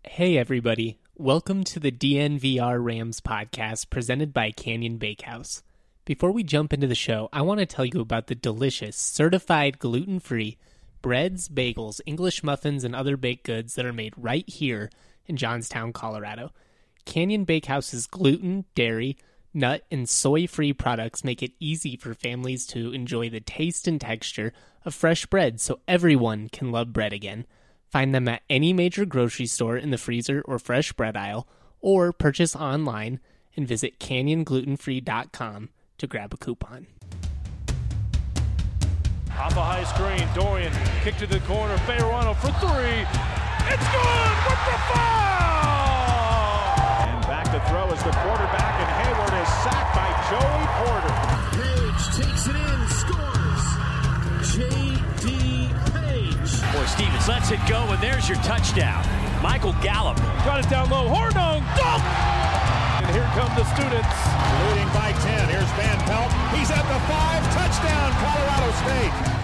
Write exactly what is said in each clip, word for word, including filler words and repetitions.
Hey everybody, welcome to the D N V R Rams podcast presented by Canyon Bakehouse. Before we jump into the show, I want to tell you about the delicious, certified gluten-free breads, bagels, English muffins, and other baked goods that are made right here in Johnstown, Colorado. Canyon Bakehouse's gluten, dairy, nut, and soy-free products make it easy for families to enjoy the taste and texture of fresh bread so everyone can love bread again. Find them at any major grocery store in the freezer or fresh bread aisle, or purchase online and visit canyon gluten free dot com to grab a coupon. Off a high screen, Dorian, kick to the corner, Fayerano for three. It's good with the foul! And back to throw as the quarterback, and Hayward is sacked by Joey Porter. Page takes it in, scores. J D Or Stevens lets it go, and there's your touchdown. Michael Gallup. Got it down low. Hornung. Dunk! And here come the students. Leading by ten. Here's Van Pelt. He's at the five. Touchdown, Colorado State.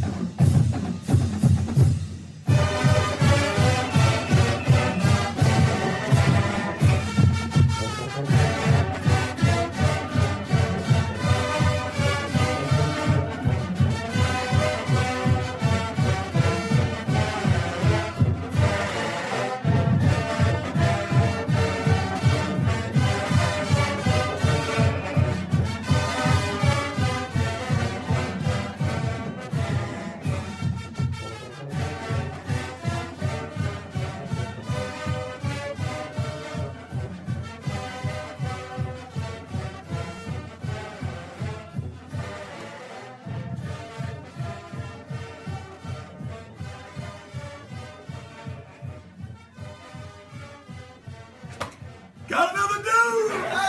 Got another dude!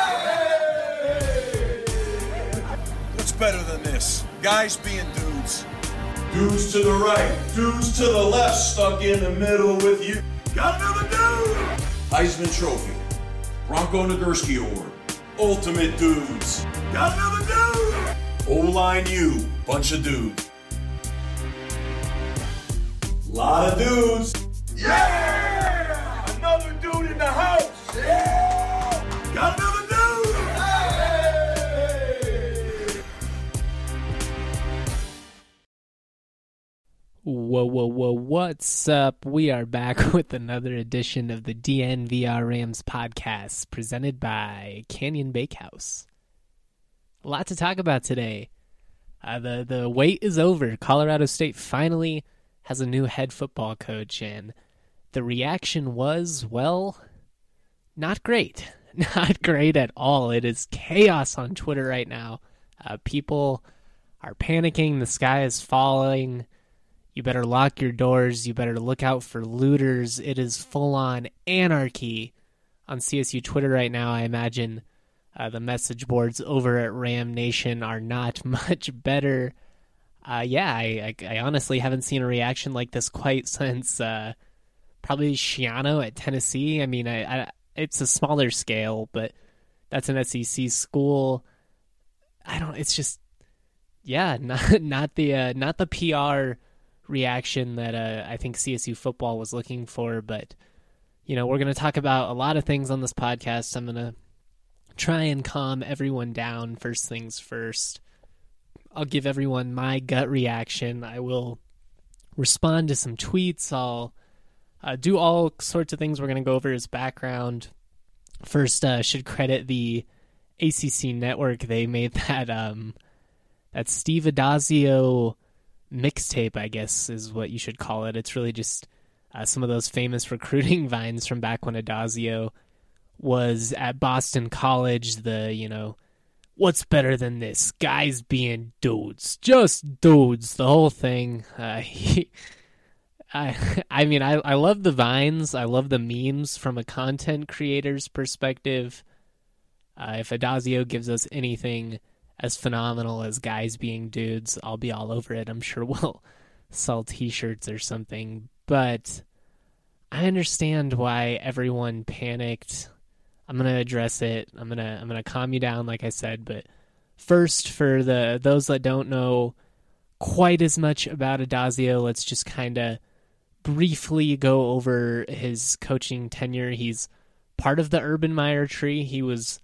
Hey! What's better than this? Guys being dudes. Dudes to the right, dudes to the left, stuck in the middle with you. Got another dude! Heisman Trophy, Bronco Nagurski Award, Ultimate Dudes. Got another dude! O-Line U, bunch of dudes. Lot of dudes. Yeah! Another dude in the house! Yeah! Got another dude! Hey! Whoa, whoa, whoa, what's up? We are back with another edition of the D N V R Rams podcast presented by Canyon Bakehouse. A lot to talk about today. Uh, the, the wait is over. Colorado State finally has a new head football coach, and the reaction was, well, not great. Not great at all. It is chaos on Twitter right now. Uh, people are panicking. The sky is falling. You better lock your doors. You better look out for looters. It is full-on anarchy on C S U Twitter right now. I imagine uh, the message boards over at Ram Nation are not much better. Uh, yeah, I, I, I honestly haven't seen a reaction like this quite since uh, probably Schiano at Tennessee. I mean, I, I it's a smaller scale, but that's an S E C school. I don't. It's just, yeah, not not the uh, not the P R reaction that uh, I think C S U football was looking for. But you know, we're going to talk about a lot of things on this podcast. I'm going to try and calm everyone down. First things first. I'll give everyone my gut reaction. I will respond to some tweets. I'll Uh, do all sorts of things. We're going to go over his background. First, uh, should credit the A C C network. They made that um, that Steve Adazio mixtape, I guess, is what you should call it. It's really just uh, some of those famous recruiting vines from back when Adazio was at Boston College. The, you know, what's better than this? Guys being dudes. Just dudes. The whole thing. Uh, he... I I mean, I, I love the vines. I love the memes from a content creator's perspective. Uh, if Adazio gives us anything as phenomenal as guys being dudes, I'll be all over it. I'm sure we'll sell t-shirts or something. But I understand why everyone panicked. I'm going to address it. I'm going to I'm going to calm you down, like I said. But first, for the those that don't know quite as much about Adazio, let's just kind of briefly go over his coaching tenure. He's part of the Urban Meyer tree. He was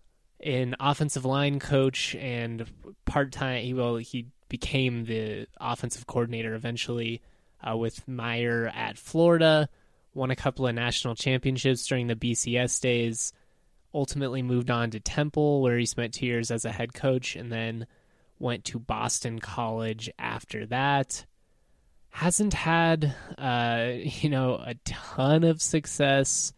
an offensive line coach and part-time. He, well, he became the offensive coordinator eventually uh, with Meyer at Florida, won a couple of national championships during the B C S days, ultimately moved on to Temple, where he spent two years as a head coach, and then went to Boston College after that. Hasn't had, uh, you know, a ton of success.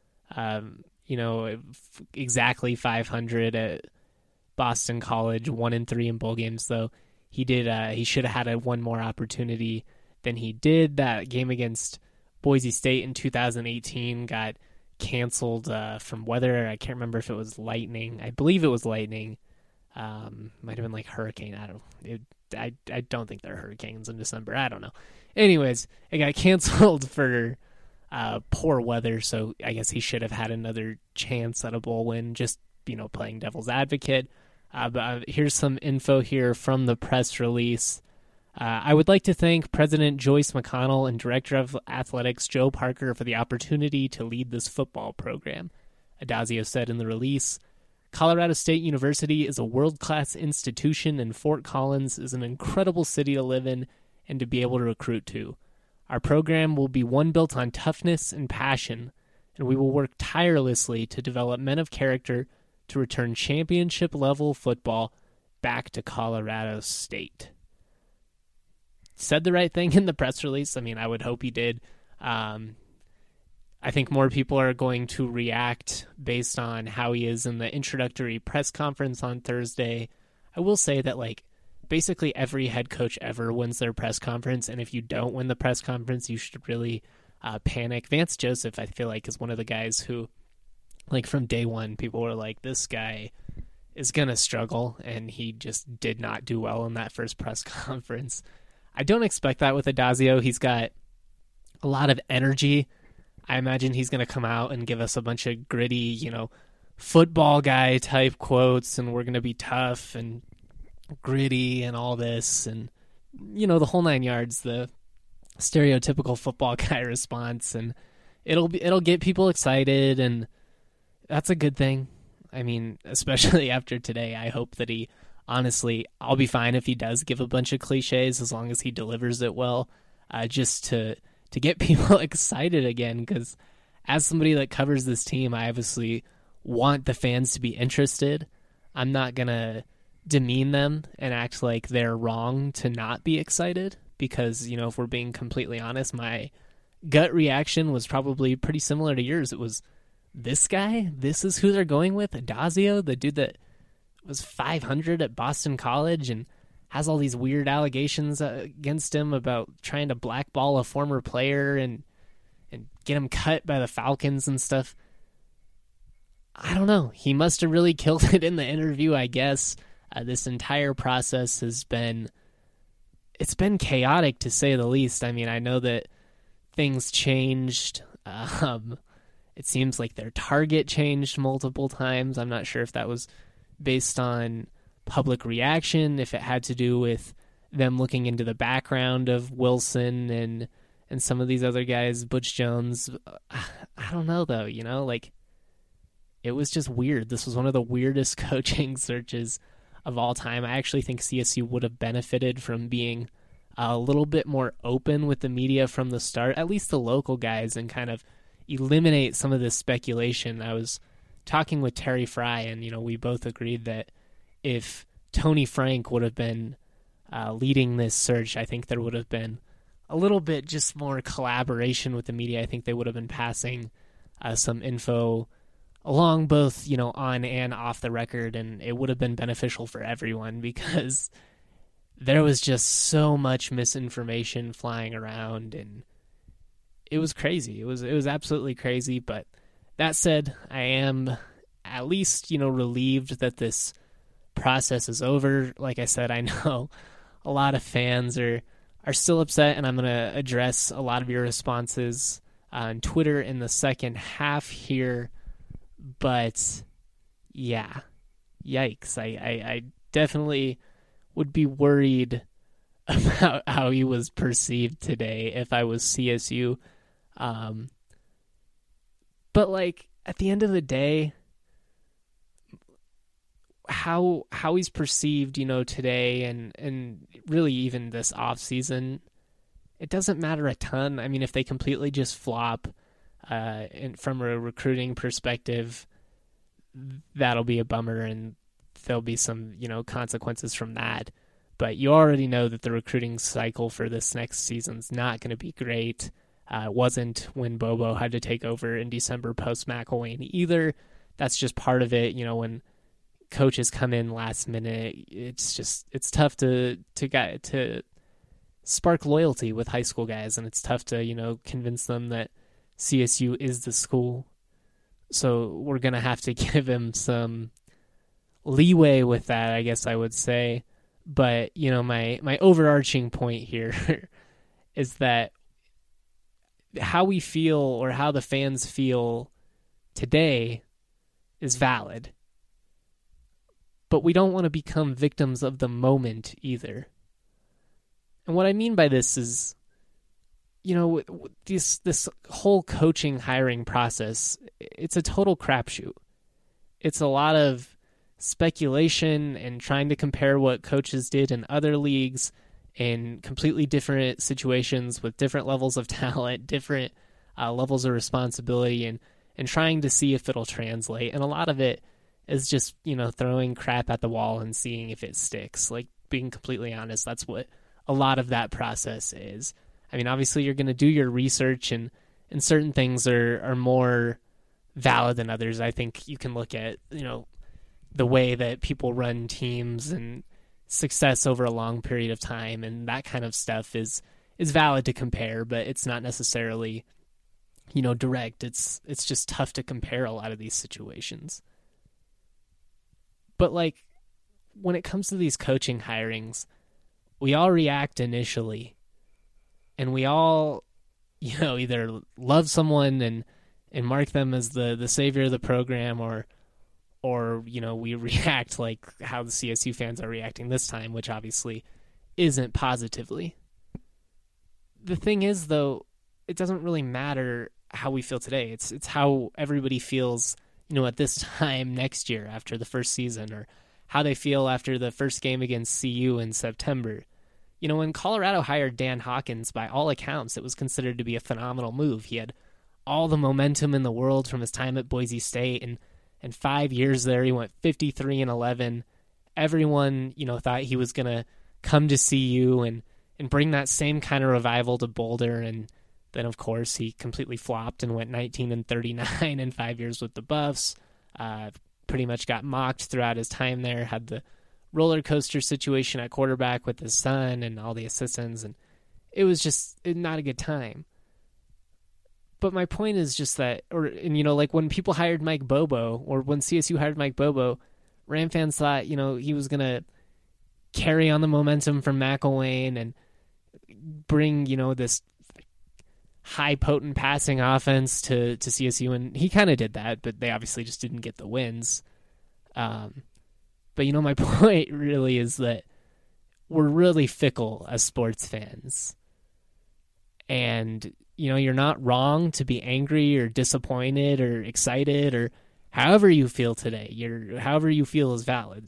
Um, you know, exactly five hundred at Boston College, one and three in bowl games. Though he did, uh, he should have had a one more opportunity than he did. That game against Boise State in two thousand eighteen got canceled uh, from weather. I can't remember if it was lightning. I believe it was lightning. Um, might have been like hurricane. I don't. It, I I don't think there are hurricanes in December. I don't know. Anyways, it got canceled for uh, poor weather, so I guess he should have had another chance at a bowl win, just, you know, playing devil's advocate. Uh, but uh, here's some info here from the press release. Uh, I would like to thank President Joyce McConnell and Director of Athletics Joe Parker for the opportunity to lead this football program, Addazio said in the release. Colorado State University is a world-class institution, and Fort Collins is an incredible city to live in and to be able to recruit to. Our program will be one built on toughness and passion, and we will work tirelessly to develop men of character to return championship-level football back to Colorado State. Said the right thing in the press release. I mean, I would hope he did. Um, I think more people are going to react based on how he is in the introductory press conference on Thursday. I will say that, like, basically every head coach ever wins their press conference, and if you don't win the press conference, you should really uh, panic. Vance Joseph, I feel like, is one of the guys who, like, from day one, people were like, this guy is going to struggle, and he just did not do well in that first press conference. I don't expect that with Addazio. He's got a lot of energy. I imagine he's going to come out and give us a bunch of gritty, you know, football guy type quotes, and we're going to be tough and gritty and all this, and, you know, the whole nine yards, the stereotypical football guy response, and it'll be, it'll get people excited, and that's a good thing. I mean, especially after today, I hope that he, honestly, I'll be fine if he does give a bunch of cliches as long as he delivers it well, uh, just to to get people excited again, because as somebody that covers this team, I obviously want the fans to be interested. I'm not going to demean them and act like they're wrong to not be excited, because, you know, if we're being completely honest, my gut reaction was probably pretty similar to yours. It was, this guy? This is who they're going with? Addazio, the dude that was five hundred at Boston College and has all these weird allegations against him about trying to blackball a former player and and get him cut by the Falcons and stuff. I don't know. He must have really killed it in the interview, I guess. Uh, this entire process has been, it's been chaotic to say the least. I mean, I know that things changed. Um, it seems like their target changed multiple times. I'm not sure if that was based on public reaction, if it had to do with them looking into the background of Wilson and and some of these other guys, Butch Jones. I don't know, though, you know, like, it was just weird. This was one of the weirdest coaching searches of all time. I actually think C S U would have benefited from being a little bit more open with the media from the start, at least the local guys, and kind of eliminate some of this speculation. I was talking with Terry Fry, and, you know, we both agreed that if Tony Frank would have been uh, leading this search, I think there would have been a little bit just more collaboration with the media. I think they would have been passing uh, some info along both, you know, on and off the record, and it would have been beneficial for everyone, because there was just so much misinformation flying around, and it was crazy. It was it was absolutely crazy. But that said, I am at least, you know, relieved that this process is over. Like I said, I know a lot of fans are are still upset, and I'm going to address a lot of your responses on Twitter in the second half here. But yeah, yikes. I, I, I definitely would be worried about how he was perceived today if I was C S U. Um, but like at the end of the day, how how he's perceived, you know, today and, and really even this off season, it doesn't matter a ton. I mean, if they completely just flop uh, and from a recruiting perspective, that'll be a bummer and there'll be some, you know, consequences from that. But you already know that the recruiting cycle for this next season's not going to be great. Uh, it wasn't when Bobo had to take over in December post McElwain either. That's just part of it. You know, when coaches come in last minute, it's just it's tough to to get to spark loyalty with high school guys, and it's tough to, you know, convince them that C S U is the school. So we're gonna have to give him some leeway with that, I guess I would say. But, you know, my, my overarching point here is that how we feel or how the fans feel today is valid. But we don't want to become victims of the moment either. And what I mean by this is, you know, this this whole coaching hiring process, it's a total crapshoot. It's a lot of speculation and trying to compare what coaches did in other leagues in completely different situations with different levels of talent, different uh, levels of responsibility, and, and trying to see if it'll translate. And a lot of it is just, you know, throwing crap at the wall and seeing if it sticks. Like, being completely honest, that's what a lot of that process is. I mean, obviously you're going to do your research, and, and certain things are, are more valid than others. I think you can look at, you know, the way that people run teams and success over a long period of time, and that kind of stuff is is valid to compare, but it's not necessarily, you know, direct. It's it's just tough to compare a lot of these situations. But like when it comes to these coaching hirings, we all react initially, and we all, you know, either love someone and and mark them as the the savior of the program, or or, you know, we react like how the C S U fans are reacting this time, which obviously isn't positively. The thing is, though, it doesn't really matter how we feel today. It's it's how everybody feels, you know, at this time next year after the first season, or how they feel after the first game against C U in September. You know, when Colorado hired Dan Hawkins, by all accounts, it was considered to be a phenomenal move. He had all the momentum in the world from his time at Boise State, and in five years there, he went fifty-three and eleven. Everyone, you know, thought he was going to come to C U and, and bring that same kind of revival to Boulder. And then, of course, he completely flopped and went nineteen and thirty-nine in five years with the Buffs. Uh, pretty much got mocked throughout his time there, had the roller coaster situation at quarterback with his son and all the assistants. And it was just not a good time. But my point is just that, or and you know, like when people hired Mike Bobo, or when C S U hired Mike Bobo, Ram fans thought, you know, he was gonna carry on the momentum from McElwain and bring, you know, this high potent passing offense to, to C S U, and he kind of did that, but they obviously just didn't get the wins. Um, but you know, my point really is that we're really fickle as sports fans, and you know, you're not wrong to be angry or disappointed or excited or however you feel today. You're, however you feel is valid.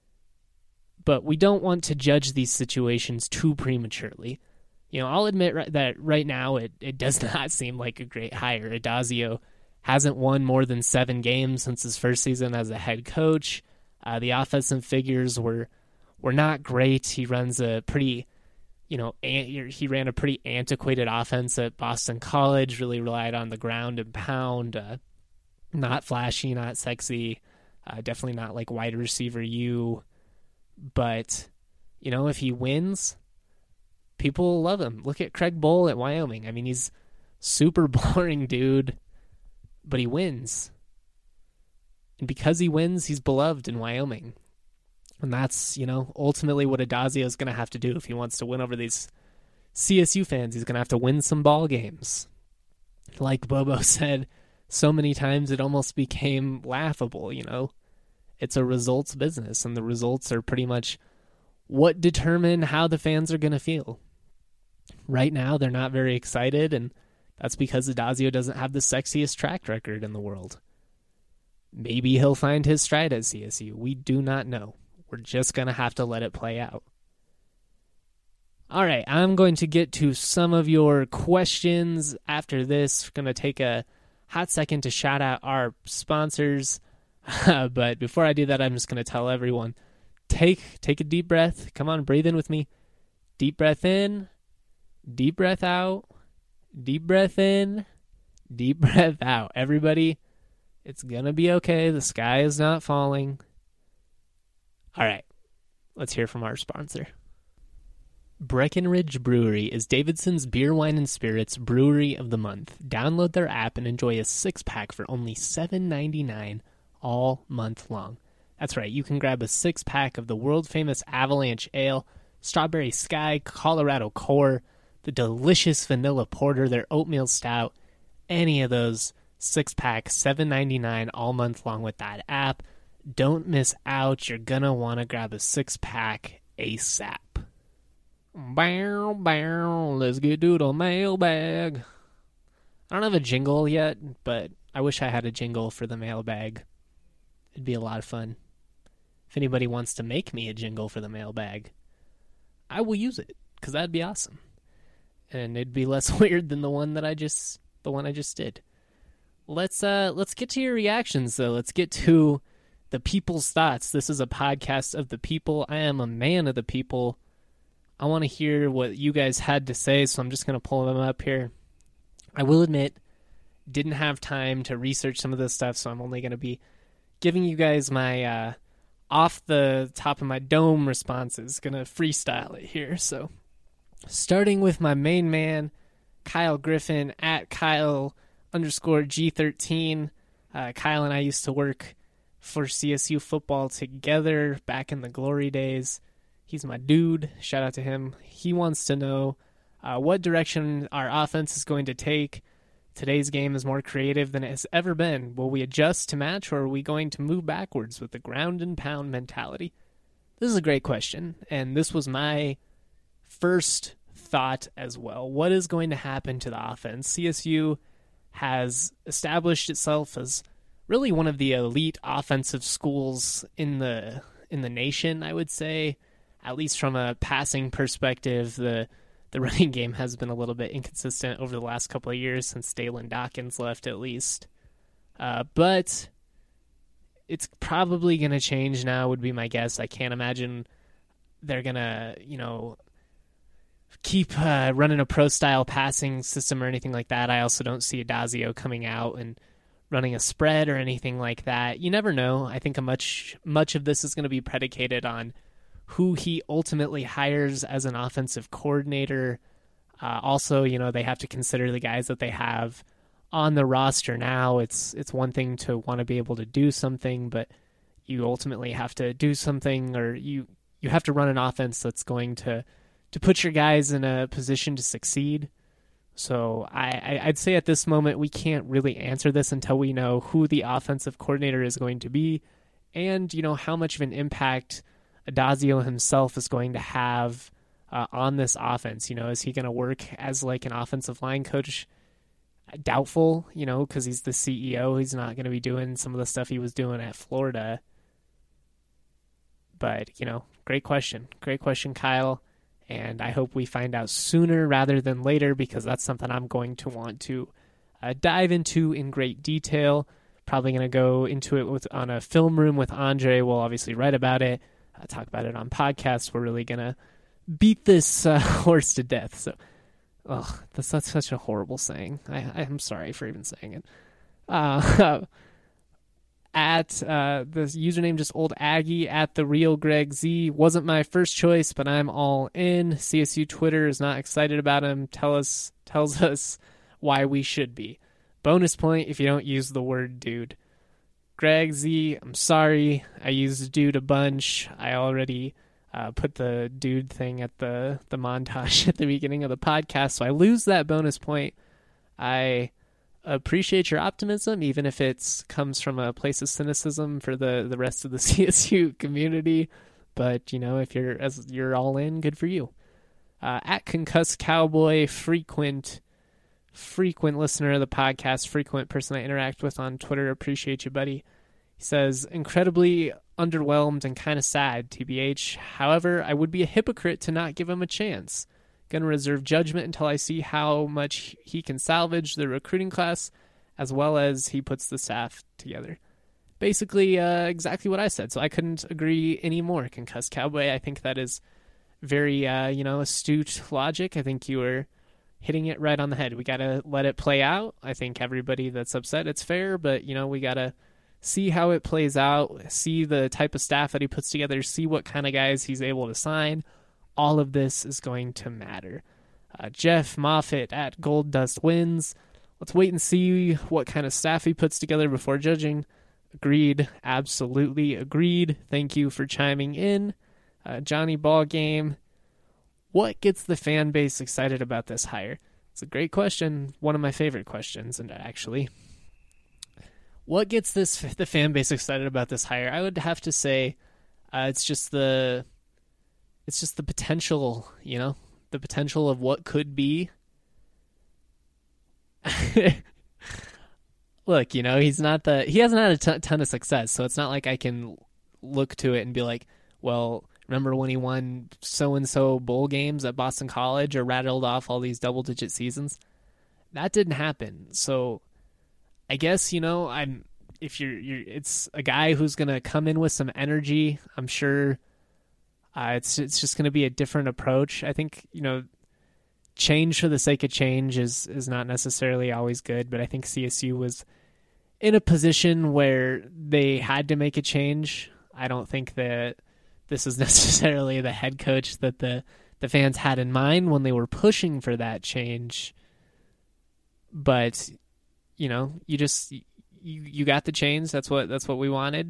But we don't want to judge these situations too prematurely. You know, I'll admit right, that right now it, it does not seem like a great hire. Addazio hasn't won more than seven games since his first season as a head coach. Uh, the offensive figures were were not great. He runs a pretty... You know, he ran a pretty antiquated offense at Boston College, really relied on the ground and pound, uh, not flashy, not sexy, uh, definitely not like wide receiver you. But, you know, if he wins, people will love him. Look at Craig Bohl at Wyoming. I mean, he's super boring dude, but he wins. And because he wins, he's beloved in Wyoming. And that's, you know, ultimately what Addazio is going to have to do if he wants to win over these C S U fans. He's going to have to win some ball games. Like Bobo said so many times, it almost became laughable, you know. It's a results business, and the results are pretty much what determine how the fans are going to feel. Right now, they're not very excited, and that's because Addazio doesn't have the sexiest track record in the world. Maybe he'll find his stride at C S U. We do not know. We're just going to have to let it play out. All right, I'm going to get to some of your questions after this. We're going to take a hot second to shout out our sponsors. But before I do that, I'm just going to tell everyone, take take a deep breath. Come on, breathe in with me. Deep breath in, deep breath out, deep breath in, deep breath out. Everybody, it's going to be okay. The sky is not falling. All right, let's hear from our sponsor. Breckenridge Brewery is Davidson's beer, wine, and spirits brewery of the month. Download their app and enjoy a six-pack for only seven ninety-nine all month long. That's right, you can grab a six-pack of the world-famous Avalanche Ale, Strawberry Sky, Colorado Core, the delicious Vanilla Porter, their Oatmeal Stout, any of those six-packs, seven ninety-nine all month long with that app. Don't miss out. You're going to want to grab a six-pack ASAP. Bow, bow, let's get to the mailbag. I don't have a jingle yet, but I wish I had a jingle for the mailbag. It'd be a lot of fun. If anybody wants to make me a jingle for the mailbag, I will use it, because that'd be awesome. And it'd be less weird than the one that I just the one I just did. Let's uh let's get to your reactions though. Let's get to the people's thoughts. This is a podcast of the people. I am a man of the people. I want to hear what you guys had to say, so I'm just going to pull them up here. I will admit, didn't have time to research some of this stuff, so I'm only going to be giving you guys my uh, off the top of my dome responses. Going to freestyle it here. So, starting with my main man, Kyle Griffin, at Kyle underscore G thirteen. Uh, Kyle and I used to work for C S U football together back in the glory days. He's my dude. Shout out to him. He wants to know uh, what direction our offense is going to take. Today's game is more creative than it has ever been. Will we adjust to match, or are we going to move backwards with the ground and pound mentality? This is a great question, and this was my first thought as well. What is going to happen to the offense? C S U has established itself as really one of the elite offensive schools in the in the nation, I would say. At least from a passing perspective, the the running game has been a little bit inconsistent over the last couple of years since Dalen Dawkins left, at least. Uh, but it's probably going to change now, would be my guess. I can't imagine they're going to, you know, keep uh, running a pro-style passing system or anything like that. I also don't see Addazio coming out and running a spread or anything like that. You never know. I think a much much of this is going to be predicated on who he ultimately hires as an offensive coordinator. Uh, also, you know, they have to consider the guys that they have on the roster now. It's it's one thing to want to be able to do something, but you ultimately have to do something, or you, you have to run an offense that's going to, to put your guys in a position to succeed. So I, I, I'd say at this moment we can't really answer this until we know who the offensive coordinator is going to be and, you know, how much of an impact Addazio himself is going to have uh, on this offense. You know, is he going to work as like an offensive line coach? Doubtful, you know, because he's the C E O. He's not going to be doing some of the stuff he was doing at Florida. But, you know, great question. Great question, Kyle. And I hope we find out sooner rather than later, because that's something I'm going to want to uh, dive into in great detail. Probably going to go into it with on a film room with Andre. We'll obviously write about it. Uh, talk about it on podcasts. We're really going to beat this uh, horse to death. So, oh, that's, that's such a horrible saying. I, I'm sorry for even saying it. Uh, at uh, the username, just old Aggie, at the real Greg Z. Wasn't my first choice, but I'm all in. C S U Twitter is not excited about him. Tell us, tells us why we should be. Bonus point if you don't use the word dude. Greg Z, I'm sorry. I used dude a bunch. I already uh, put the dude thing at the, the montage at the beginning of the podcast, so I lose that bonus point. I appreciate your optimism, even if it comes from a place of cynicism for the, the rest of the C S U community. but, you know, if you're as you're all in, good for you. Uh, at Concussed Cowboy, frequent, frequent listener of the podcast, frequent person I interact with on Twitter. Appreciate you, buddy. He says, incredibly underwhelmed and kind of sad, T B H. However, I would be a hypocrite to not give him a chance. Gonna reserve judgment until I see how much he can salvage the recruiting class, as well as he puts the staff together. Basically, uh, exactly what I said, so I couldn't agree anymore, Concussed Cowboy. I think that is very, uh, you know, astute logic. I think you were hitting it right on the head. We gotta let it play out. I think everybody that's upset, it's fair, but, you know, we gotta see how it plays out, see the type of staff that he puts together, see what kind of guys he's able to sign. All of this is going to matter. Uh, Jeff Moffitt at Gold Dust Wins. Let's wait and see what kind of staff he puts together before judging. Agreed. Absolutely agreed. Thank you for chiming in. Uh, Johnny Ballgame. What gets the fan base excited about this hire? It's a great question. One of my favorite questions, and actually. What gets this the fan base excited about this hire? I would have to say uh, it's just the it's just the potential, you know, the potential of what could be. Look, you know, he's not the he hasn't had a t- ton of success, so it's not like I can look to it and be like, well, remember when he won so and so bowl games at Boston College or rattled off all these double digit seasons? That didn't happen. So I guess, you know, I'm if you're you're it's a guy who's gonna come in with some energy. I'm sure uh, it's it's just gonna be a different approach. I think, you know, change for the sake of change is is not necessarily always good, but I think C S U was in a position where they had to make a change. I don't think that this is necessarily the head coach that the the fans had in mind when they were pushing for that change, but you know, you just you you got the change. That's what that's what we wanted.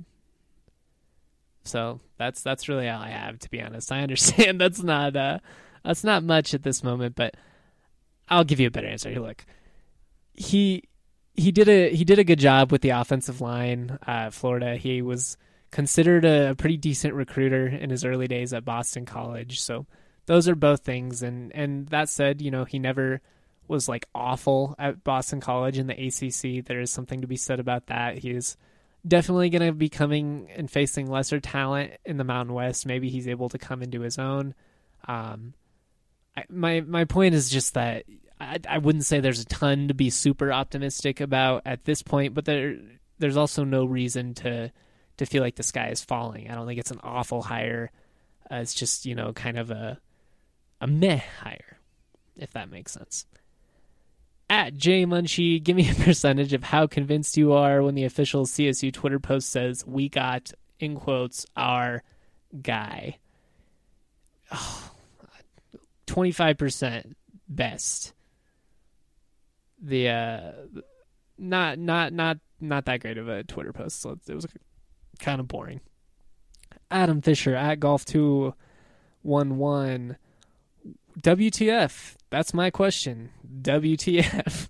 So that's that's really all I have, to be honest. I understand that's not uh that's not much at this moment, but I'll give you a better answer. Look, he he did a he did a good job with the offensive line at Florida. He was considered a pretty decent recruiter in his early days at Boston College. So those are both things. And and that said, you know, he never was like awful at Boston College in the A C C. There is something to be said about that. He is definitely going to be coming and facing lesser talent in the Mountain West. Maybe he's able to come into his own. Um, I, my my point is just that I, I wouldn't say there's a ton to be super optimistic about at this point, but there there's also no reason to to feel like the sky is falling. I don't think it's an awful hire. Uh, it's just, you know, kind of a a meh hire, if that makes sense. At J Munchie, give me a percentage of how convinced you are when the official C S U Twitter post says, we got, in quotes, our guy. Oh, twenty-five percent best. The, uh, not, not, not, not that great of a Twitter post, so it was kind of boring. Adam Fisher, at Golf two one one. W T F? That's my question. W T F?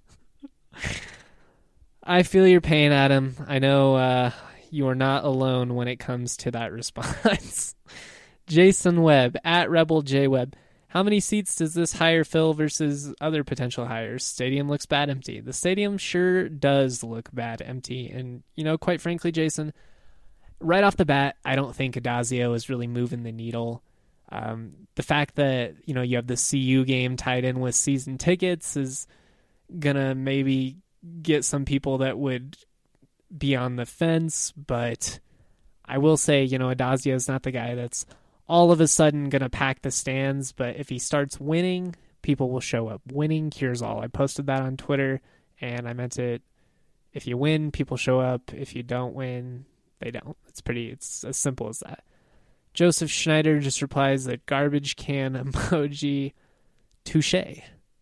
I feel your pain, Adam. I know uh, you are not alone when it comes to that response. Jason Webb, at Rebel J Webb. How many seats does this hire fill versus other potential hires? Stadium looks bad empty. The stadium sure does look bad empty. And, you know, quite frankly, Jason, right off the bat, I don't think Adazio is really moving the needle. Um, the fact that, you know, you have the C U game tied in with season tickets is gonna maybe get some people that would be on the fence, but I will say, you know, Adazio is not the guy that's all of a sudden gonna pack the stands, but if he starts winning, people will show up. Winning cures all. I posted that on Twitter, and I meant it. If you win, people show up. If you don't win, they don't. It's pretty, it's as simple as that. Joseph Schneider just replies that garbage can emoji. Touche.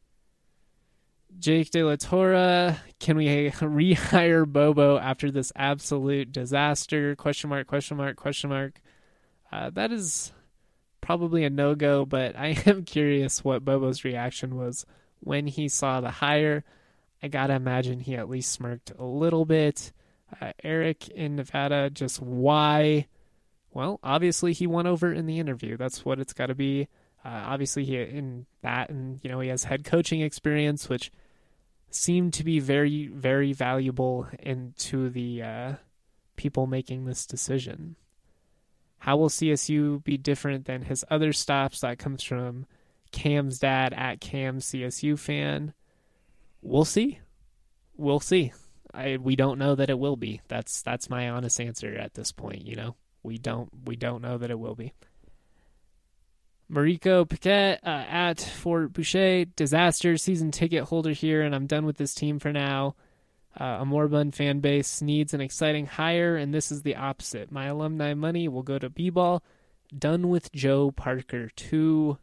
Jake De La Torre, can we rehire Bobo after this absolute disaster? Question mark, question mark, question mark. Uh, that is probably a no-go, but I am curious what Bobo's reaction was when he saw the hire. I gotta imagine he at least smirked a little bit. Uh, Eric in Nevada, just why... Well, obviously he won over in the interview. That's what it's got to be. Uh, obviously he in that, and you know, he has head coaching experience, which seemed to be very, very valuable into the uh, people making this decision. How will C S U be different than his other stops? That comes from Cam's dad at Cam C S U fan. We'll see. We'll see. I we don't know that it will be. That's that's my honest answer at this point. You know, we don't we don't know that it will be. Mariko Paquette uh, at Fort Boucher, disaster season ticket holder here, and I'm done with this team for now. Uh, a moribund fan base needs an exciting hire, and this is the opposite. My alumni money will go to B-ball. Done with Joe Parker too.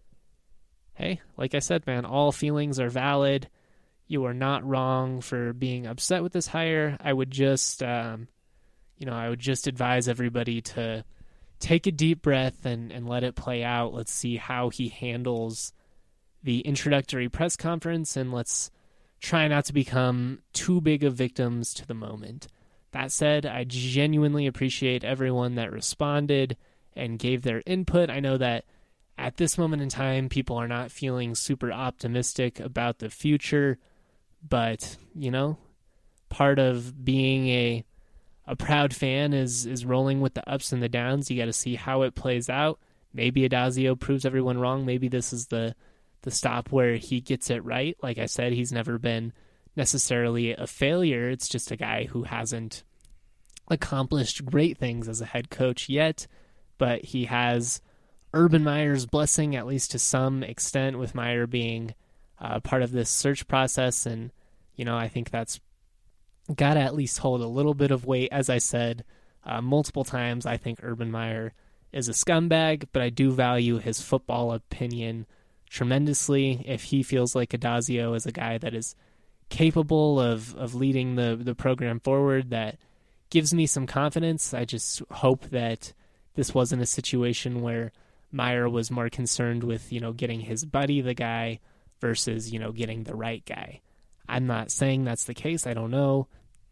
Hey, like I said, man, all feelings are valid. You are not wrong for being upset with this hire. I would just, um, you know, I would just advise everybody to take a deep breath and, and let it play out. Let's see how he handles the introductory press conference, and let's try not to become too big of victims to the moment. That said, I genuinely appreciate everyone that responded and gave their input. I know that at this moment in time, people are not feeling super optimistic about the future, but, you know, part of being a a proud fan is is rolling with the ups and the downs. You got to see how it plays out. Maybe Addazio proves everyone wrong. Maybe this is the the stop where he gets it right. Like I said, he's never been necessarily a failure. It's just a guy who hasn't accomplished great things as a head coach yet, but he has Urban Meyer's blessing, at least to some extent, with Meyer being uh, part of this search process. And, you know, I think that's got to at least hold a little bit of weight. As I said uh, multiple times, I think Urban Meyer is a scumbag, but I do value his football opinion tremendously. If he feels like Addazio is a guy that is capable of, of leading the, the program forward, that gives me some confidence. I just hope that this wasn't a situation where Meyer was more concerned with, you know, getting his buddy the guy versus, you know, getting the right guy. I'm not saying that's the case. I don't know.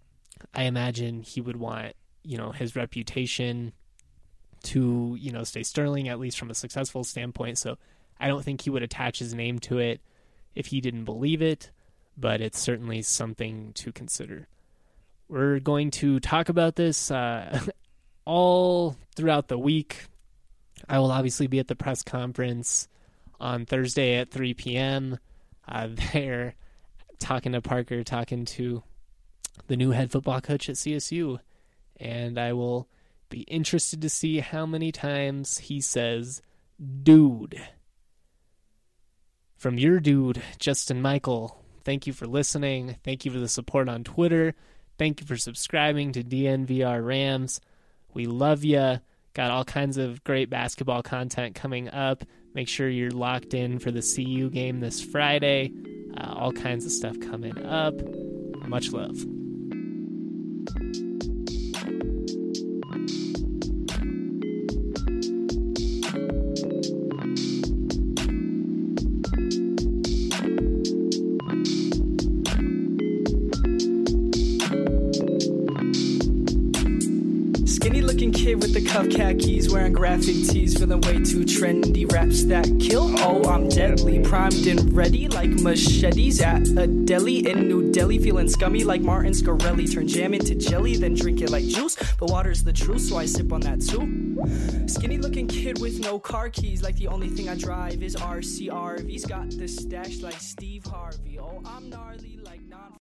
I imagine he would want, you know, his reputation to, you know, stay sterling, at least from a successful standpoint. So I don't think he would attach his name to it if he didn't believe it, but it's certainly something to consider. We're going to talk about this uh, all throughout the week. I will obviously be at the press conference on Thursday at three p.m. Uh, there, talking to Parker, talking to the new head football coach at C S U, and I will be interested to see how many times he says, dude. From your dude, Justin Michael, thank you for listening. Thank you for the support on Twitter. Thank you for subscribing to D N V R Rams. We love you. Got all kinds of great basketball content coming up. Make sure you're locked in for the C U game this Friday. Uh, all kinds of stuff coming up. Much love. With the cuff khakis, wearing graphic tees, feeling way too trendy. Raps that kill, oh, I'm deadly. Primed and ready like machetes at a deli in New Delhi. Feeling scummy like Martin Scarelli. Turn jam into jelly, then drink it like juice. But water's the truth, so I sip on that too. Skinny looking kid with no car keys, like the only thing I drive is R C R V's. Got the stash like Steve Harvey. Oh, I'm gnarly.